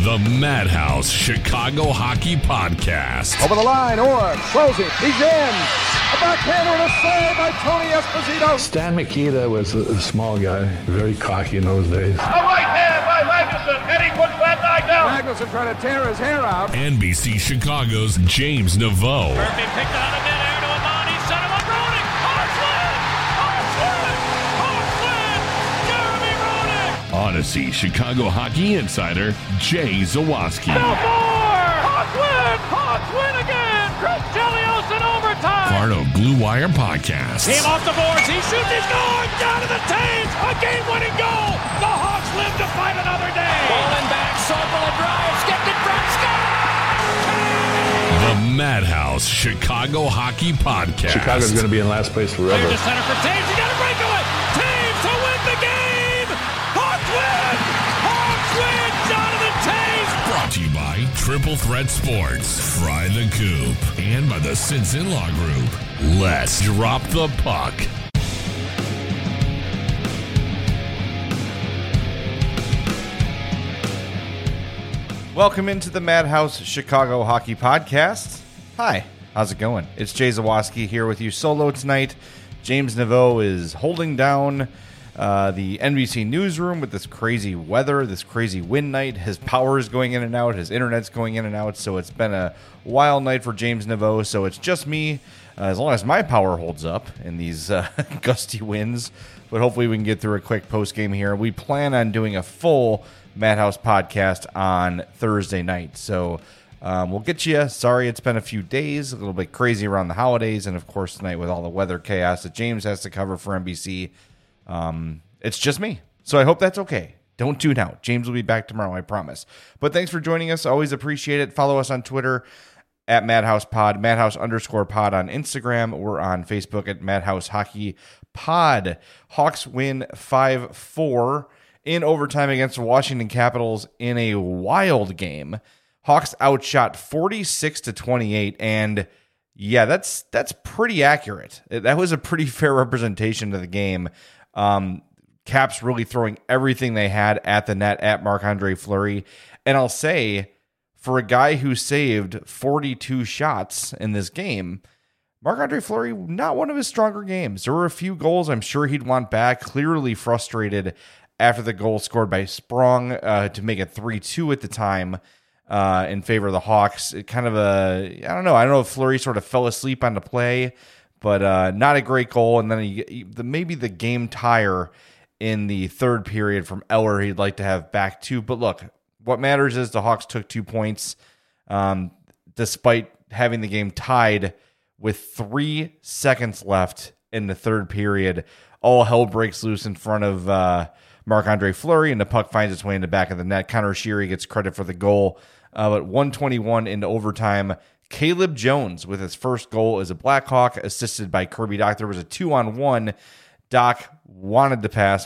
The Madhouse Chicago Hockey Podcast. Over the line, Orr throws it. He's in. A backhander and a save by Tony Esposito. Stan Mikita was a small guy, very cocky in those days. A right hand by Magnuson, and he puts that guy down. Magnuson trying to tear his hair out. NBC Chicago's James Neveau. Murphy picked out of midair to Amani, set him up, Roenick. Hawks win! Jeremy Roenick! Odyssey Chicago Hockey Insider Jay Zawaski. No more! Hawks win again! Chris Chelios in overtime! Part of Blue Wire Podcast. Team off the boards, he shoots, he scores! Down to the Taves! A game-winning goal! The Hawks live to fight another day! Bowling back, Sobel a drive, skipped in front, score! The Madhouse Chicago Hockey Podcast. Chicago's going to be in last place forever. Clear to center for Taves, he got a breakaway! Taves to win the game! Hawks win! Hawks win! Jonathan Taves! Brought to you by Triple Threat Sports, Fry the Coop, and by the Sins In-Law Group. Let's drop the puck. Welcome into the Madhouse Chicago Hockey Podcast. Hi, how's it going? It's Jay Zawaski here with you solo tonight. James Neveau is holding down the NBC newsroom with this crazy weather, this crazy wind night. His power is going in and out. His internet's going in and out. So it's been a wild night for James Neveau. So it's just me, as long as my power holds up in these gusty winds. But hopefully we can get through a quick post game here. We plan on doing a full Madhouse podcast on Thursday night. So we'll get you. Sorry, it's been a few days, a little bit crazy around the holidays. And of course, tonight with all the weather chaos that James has to cover for NBC. It's just me. So I hope that's okay. Don't tune out. James will be back tomorrow, I promise. But thanks for joining us. Always appreciate it. Follow us on Twitter at Madhouse Pod, Madhouse_pod on Instagram. We're on Facebook at Madhouse Hockey Pod. Hawks win 5-4 in overtime against the Washington Capitals in a wild game. Hawks outshot 46-28, and yeah, that's pretty accurate. That was a pretty fair representation of the game. Caps really throwing everything they had at the net at Marc-Andre Fleury. And I'll say, for a guy who saved 42 shots in this game, Marc-Andre Fleury, not one of his stronger games. There were a few goals I'm sure he'd want back, clearly frustrated after the goal scored by Sprong to make it 3-2 at the time in favor of the Hawks. It kind of I don't know if Fleury sort of fell asleep on the play, but not a great goal. And then maybe the game tire in the third period from Eller he'd like to have back too. But look, what matters is the Hawks took 2 points despite having the game tied with 3 seconds left in the third period. All hell breaks loose in front of Marc-Andre Fleury, and the puck finds its way in the back of the net. Connor Sheary gets credit for the goal. But 1:21 into overtime, Caleb Jones with his first goal as a Blackhawk, assisted by Kirby Dach. There was a 2-on-1. Dach wanted to pass,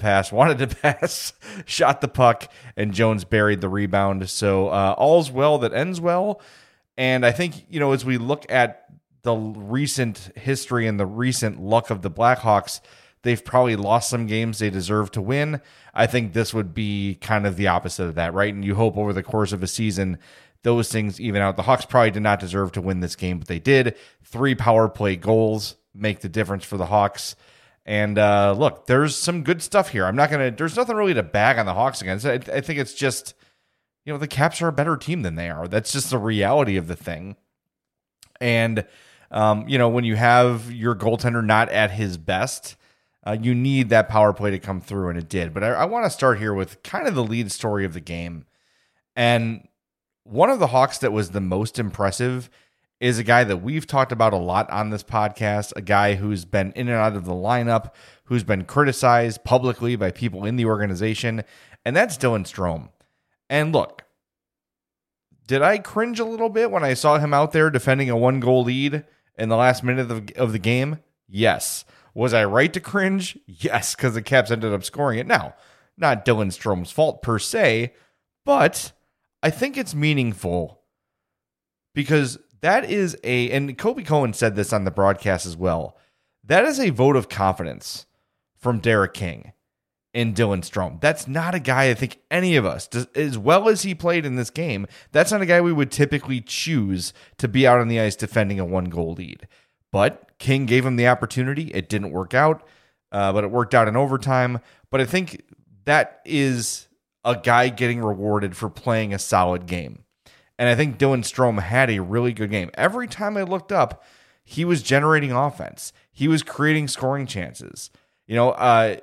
shot the puck, and Jones buried the rebound. So all's well that ends well. And I think, as we look at the recent history and the recent luck of the Blackhawks, they've probably lost some games they deserve to win. I think this would be kind of the opposite of that, right? And you hope over the course of a season, those things even out. The Hawks probably did not deserve to win this game, but they did. 3 power play goals make the difference for the Hawks. And look, there's some good stuff here. There's nothing really to bag on the Hawks against. I think it's just, the Caps are a better team than they are. That's just the reality of the thing. And, when you have your goaltender not at his best, you need that power play to come through, and it did. But I want to start here with kind of the lead story of the game. And one of the Hawks that was the most impressive is a guy that we've talked about a lot on this podcast, a guy who's been in and out of the lineup, who's been criticized publicly by people in the organization, and that's Dylan Strome. And look, did I cringe a little bit when I saw him out there defending a 1-goal lead in the last minute of the game? Yes. Was I right to cringe? Yes, because the Caps ended up scoring it. Now, not Dylan Strome's fault per se, but I think it's meaningful because that is and Kobe Cohen said this on the broadcast as well, that is a vote of confidence from Derek King. in Dylan Strome. That's not a guy I think any of us, as well as he played in this game, that's not a guy we would typically choose to be out on the ice defending a 1-goal lead. But King gave him the opportunity. It didn't work out, but it worked out in overtime. But I think that is a guy getting rewarded for playing a solid game. And I think Dylan Strome had a really good game. Every time I looked up, he was generating offense. He was creating scoring chances. I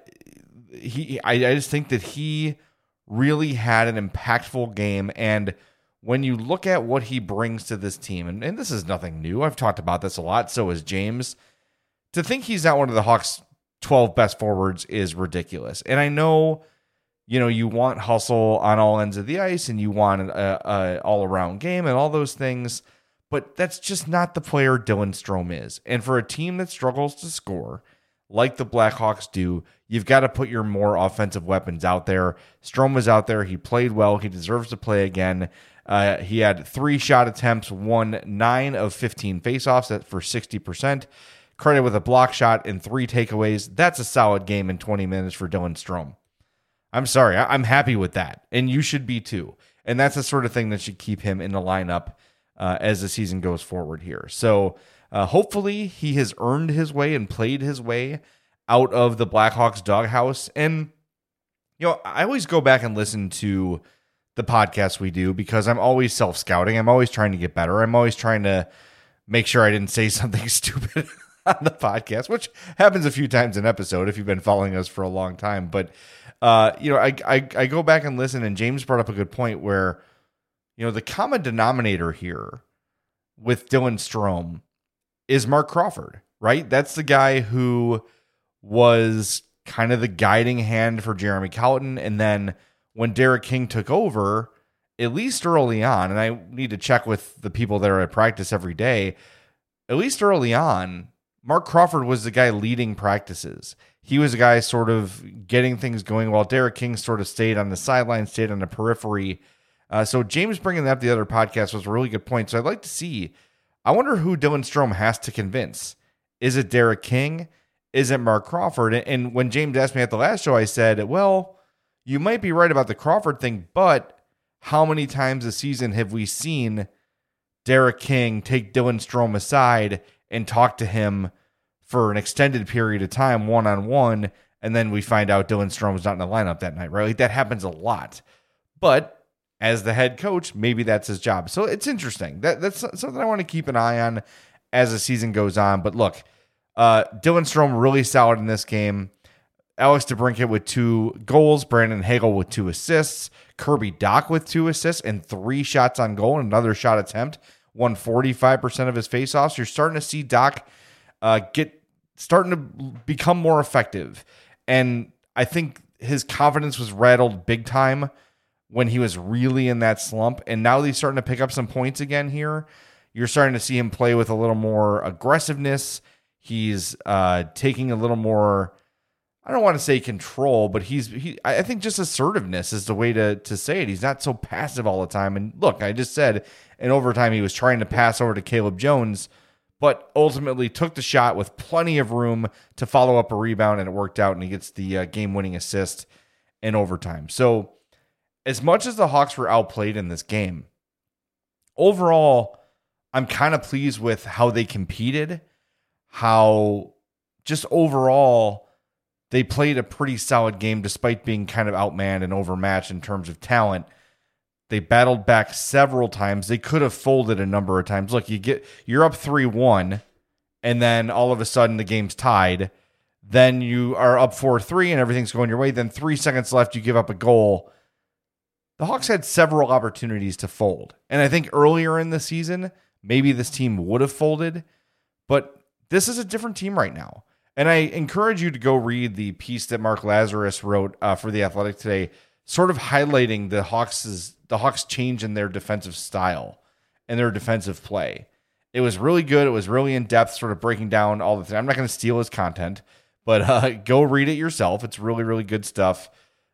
just think that he really had an impactful game. And when you look at what he brings to this team, and this is nothing new. I've talked about this a lot. So has James. To think he's not one of the Hawks' 12 best forwards is ridiculous. And I know, you want hustle on all ends of the ice and you want an all-around game and all those things, but that's just not the player Dylan Strome is. And for a team that struggles to score, like the Blackhawks do, you've got to put your more offensive weapons out there. Strome was out there. He played well. He deserves to play again. He had 3 shot attempts, won 9 of 15 faceoffs for 60%. Credit with a block shot and 3 takeaways. That's a solid game in 20 minutes for Dylan Strome. I'm sorry. I'm happy with that. And you should be too. And that's the sort of thing that should keep him in the lineup as the season goes forward here. So hopefully he has earned his way and played his way out of the Blackhawks doghouse. And, I always go back and listen to the podcast we do because I'm always self-scouting. I'm always trying to get better. I'm always trying to make sure I didn't say something stupid on the podcast, which happens a few times an episode if you've been following us for a long time. But, I go back and listen, and James brought up a good point where, the common denominator here with Dylan Strome is Mark Crawford, right? That's the guy who was kind of the guiding hand for Jeremy Colliton. And then when Derek King took over, at least early on, and I need to check with the people that are at practice every day, at least early on, Mark Crawford was the guy leading practices. He was the guy sort of getting things going while Derek King sort of stayed on the sideline, stayed on the periphery. So James bringing that up the other podcast was a really good point. So I'd like to see, I wonder who Dylan Strome has to convince. Is it Derek King? Is it Mark Crawford? And when James asked me at the last show, I said, well, you might be right about the Crawford thing, but how many times this season have we seen Derek King take Dylan Strome aside and talk to him for an extended period of time, one-on-one, and then we find out Dylan Strome's not in the lineup that night, right? Like, that happens a lot. But as the head coach, maybe that's his job. So it's interesting. That's something I want to keep an eye on as the season goes on. But look, Dylan Strome really solid in this game. Alex DeBrincat with 2 goals, Brandon Hagel with 2 assists, Kirby Dach with 2 assists and 3 shots on goal and another shot attempt, won 45% of his faceoffs. You're starting to see Dach starting to become more effective. And I think his confidence was rattled big time when he was really in that slump. And now he's starting to pick up some points again here. You're starting to see him play with a little more aggressiveness. He's taking a little more, I don't want to say control, but I think just assertiveness is the way to say it. He's not so passive all the time. And look, I just said in overtime he was trying to pass over to Caleb Jones, but ultimately took the shot with plenty of room to follow up a rebound, and it worked out, and he gets the game-winning assist in overtime. So as much as the Hawks were outplayed in this game, overall, I'm kind of pleased with how they competed, how just overall they played a pretty solid game despite being kind of outmanned and overmatched in terms of talent. They battled back several times. They could have folded a number of times. Look, you're up 3-1, and then all of a sudden the game's tied. Then you are up 4-3 and everything's going your way. Then 3 seconds left, you give up a goal. The Hawks had several opportunities to fold. And I think earlier in the season, maybe this team would have folded, but this is a different team right now. And I encourage you to go read the piece that Mark Lazarus wrote for The Athletic today, sort of highlighting the Hawks change in their defensive style and their defensive play. It was really good. It was really in-depth, sort of breaking down all the things. I'm not going to steal his content, but go read it yourself. It's really, really good stuff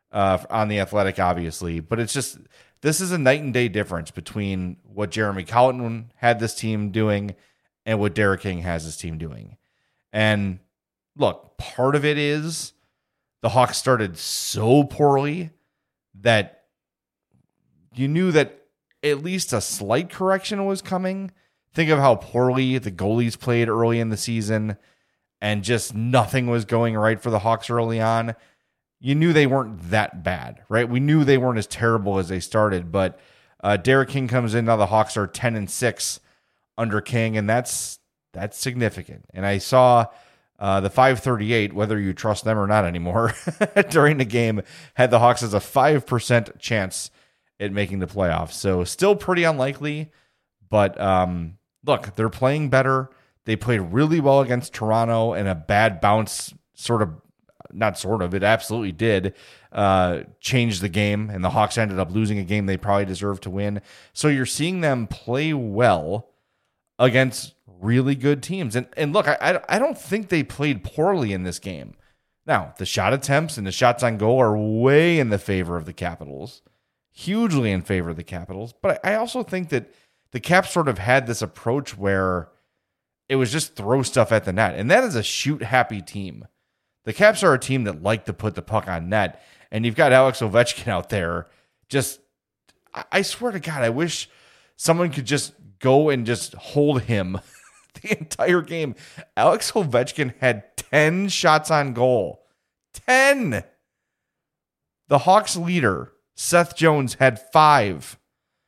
on The Athletic, obviously. But it's just, this is a night and day difference between what Jeremy Colliton had this team doing and what Derek King has his team doing. And look, part of it is the Hawks started so poorly that you knew that at least a slight correction was coming. Think of how poorly the goalies played early in the season and just nothing was going right for the Hawks early on. You knew they weren't that bad, right? We knew they weren't as terrible as they started, but Derek King comes in. Now the Hawks are 10-6 under King, and that's significant. And I saw the 538, whether you trust them or not anymore, during the game, had the Hawks as a 5% chance at making the playoffs. So still pretty unlikely, but look, they're playing better. They played really well against Toronto, and a bad bounce it absolutely did change the game, and the Hawks ended up losing a game they probably deserved to win. So you're seeing them play well against really good teams. And look, I don't think they played poorly in this game. Now, the shot attempts and the shots on goal are way in the favor of the Capitals, hugely in favor of the Capitals. But I also think that the Caps sort of had this approach where it was just throw stuff at the net. And that is a shoot-happy team. The Caps are a team that like to put the puck on net. And you've got Alex Ovechkin out there. I swear to God, I wish someone could just go and just hold him the entire game. Alex Ovechkin had 10 shots on goal. 10! The Hawks leader, Seth Jones, had 5.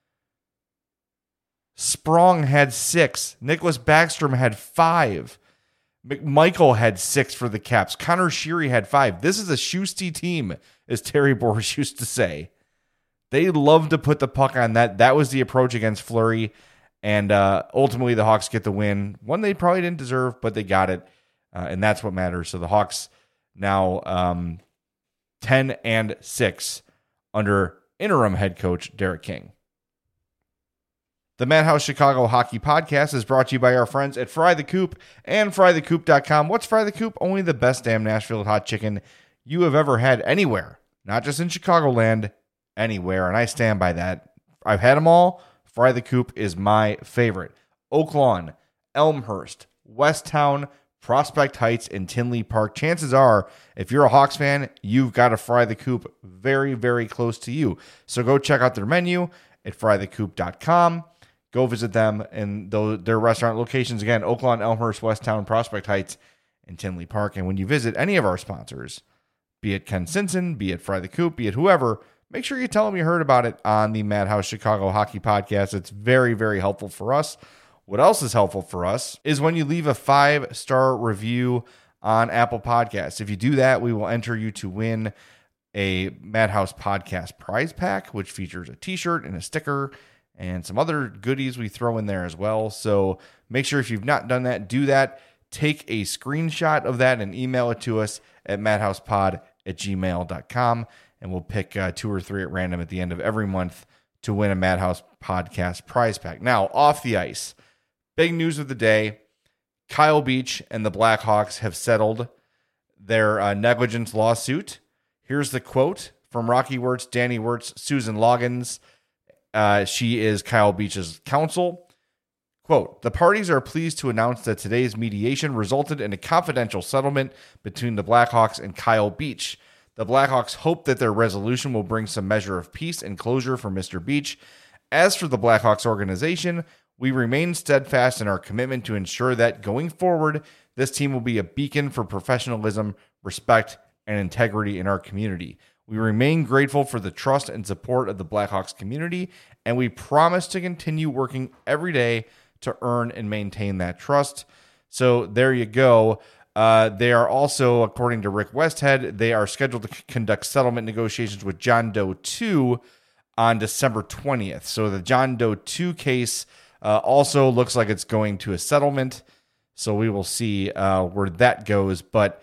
Sprong had 6. Nicholas Backstrom had 5. McMichael had 6 for the Caps. Connor Sheary had 5. This is a shoosty team, as Terry Boris used to say. They love to put the puck on that. That was the approach against Fleury. And ultimately, the Hawks get the win. One they probably didn't deserve, but they got it. And that's what matters. So the Hawks now 10-6 under interim head coach Derek King. The Madhouse Chicago Hockey Podcast is brought to you by our friends at Fry the Coop and FryTheCoop.com. What's Fry the Coop? Only the best damn Nashville hot chicken you have ever had anywhere. Not just in Chicagoland, anywhere. And I stand by that. I've had them all. Fry the Coop is my favorite. Oak Lawn, Elmhurst, Westtown, Prospect Heights, and Tinley Park. Chances are, if you're a Hawks fan, you've got a Fry the Coop very, very close to you. So go check out their menu at FryTheCoop.com. Go visit them and their restaurant locations. Again, Oak Lawn, Elmhurst, Westtown, Prospect Heights, and Tinley Park. And when you visit any of our sponsors, be it Ken Simpson, be it Fry the Coop, be it whoever, make sure you tell them you heard about it on the Madhouse Chicago Hockey Podcast. It's very, very helpful for us. What else is helpful for us is when you leave a 5-star review on Apple Podcasts. If you do that, we will enter you to win a Madhouse Podcast prize pack, which features a t-shirt and a sticker and some other goodies we throw in there as well. So make sure if you've not done that, do that. Take a screenshot of that and email it to us at madhousepod@gmail.com. And we'll pick 2 or 3 at random at the end of every month to win a Madhouse Podcast prize pack. Now, off the ice, big news of the day. Kyle Beach and the Blackhawks have settled their negligence lawsuit. Here's the quote from Rocky Wirtz, Danny Wirtz, Susan Loggins. She is Kyle Beach's counsel. Quote, the parties are pleased to announce that today's mediation resulted in a confidential settlement between the Blackhawks and Kyle Beach. The Blackhawks hope that their resolution will bring some measure of peace and closure for Mr. Beach. As for the Blackhawks organization, we remain steadfast in our commitment to ensure that going forward, this team will be a beacon for professionalism, respect, and integrity in our community. We remain grateful for the trust and support of the Blackhawks community, and we promise to continue working every day to earn and maintain that trust. So there you go. They are also, according to Rick Westhead, they are scheduled to conduct settlement negotiations with John Doe 2 on December 20th. So the John Doe 2 case also looks like it's going to a settlement. So we will see where that goes. But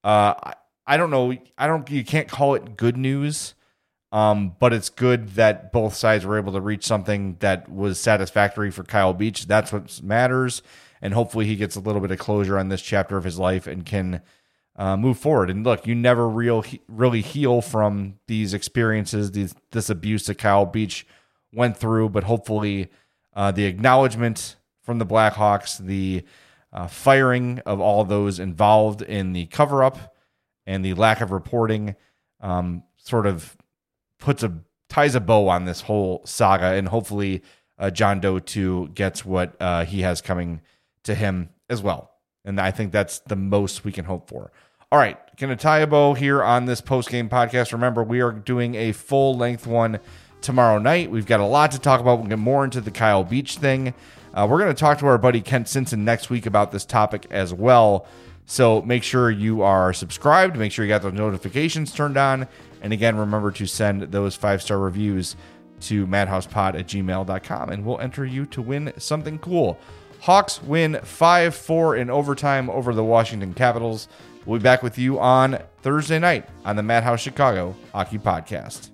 I don't know. You can't call it good news, but it's good that both sides were able to reach something that was satisfactory for Kyle Beach. That's what matters. And hopefully he gets a little bit of closure on this chapter of his life and can move forward. And look, you never really heal from these experiences, this abuse that Kyle Beach went through. But hopefully the acknowledgement from the Blackhawks, the firing of all those involved in the cover-up, and the lack of reporting sort of ties a bow on this whole saga, and hopefully John Doe 2 gets what he has coming to him as well. And I think that's the most we can hope for. All right, going to tie a bow here on this post-game podcast. Remember, we are doing a full-length one tomorrow night. We've got a lot to talk about. We'll get more into the Kyle Beach thing. We're going to talk to our buddy Kent Simpson next week about this topic as well. So make sure you are subscribed. Make sure you got those notifications turned on. And again, remember to send those 5-star reviews to madhousepod@gmail.com, and we'll enter you to win something cool. Hawks win 5-4 in overtime over the Washington Capitals. We'll be back with you on Thursday night on the Madhouse Chicago Hockey Podcast.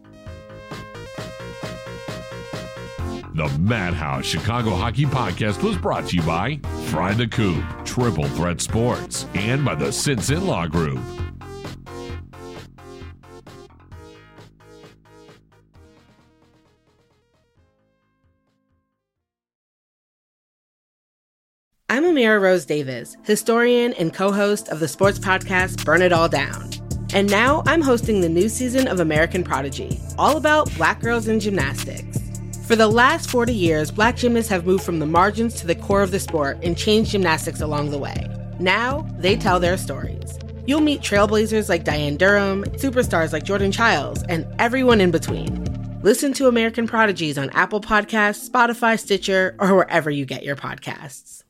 The Madhouse Chicago Hockey Podcast was brought to you by Fry the Coop, Triple Threat Sports, and by the Simpson Law Group. I'm Amira Rose Davis, historian and co-host of the sports podcast Burn It All Down. And now I'm hosting the new season of American Prodigy, all about Black girls in gymnastics. For the last 40 years, Black gymnasts have moved from the margins to the core of the sport and changed gymnastics along the way. Now, they tell their stories. You'll meet trailblazers like Diane Durham, superstars like Jordan Childs, and everyone in between. Listen to American Prodigies on Apple Podcasts, Spotify, Stitcher, or wherever you get your podcasts.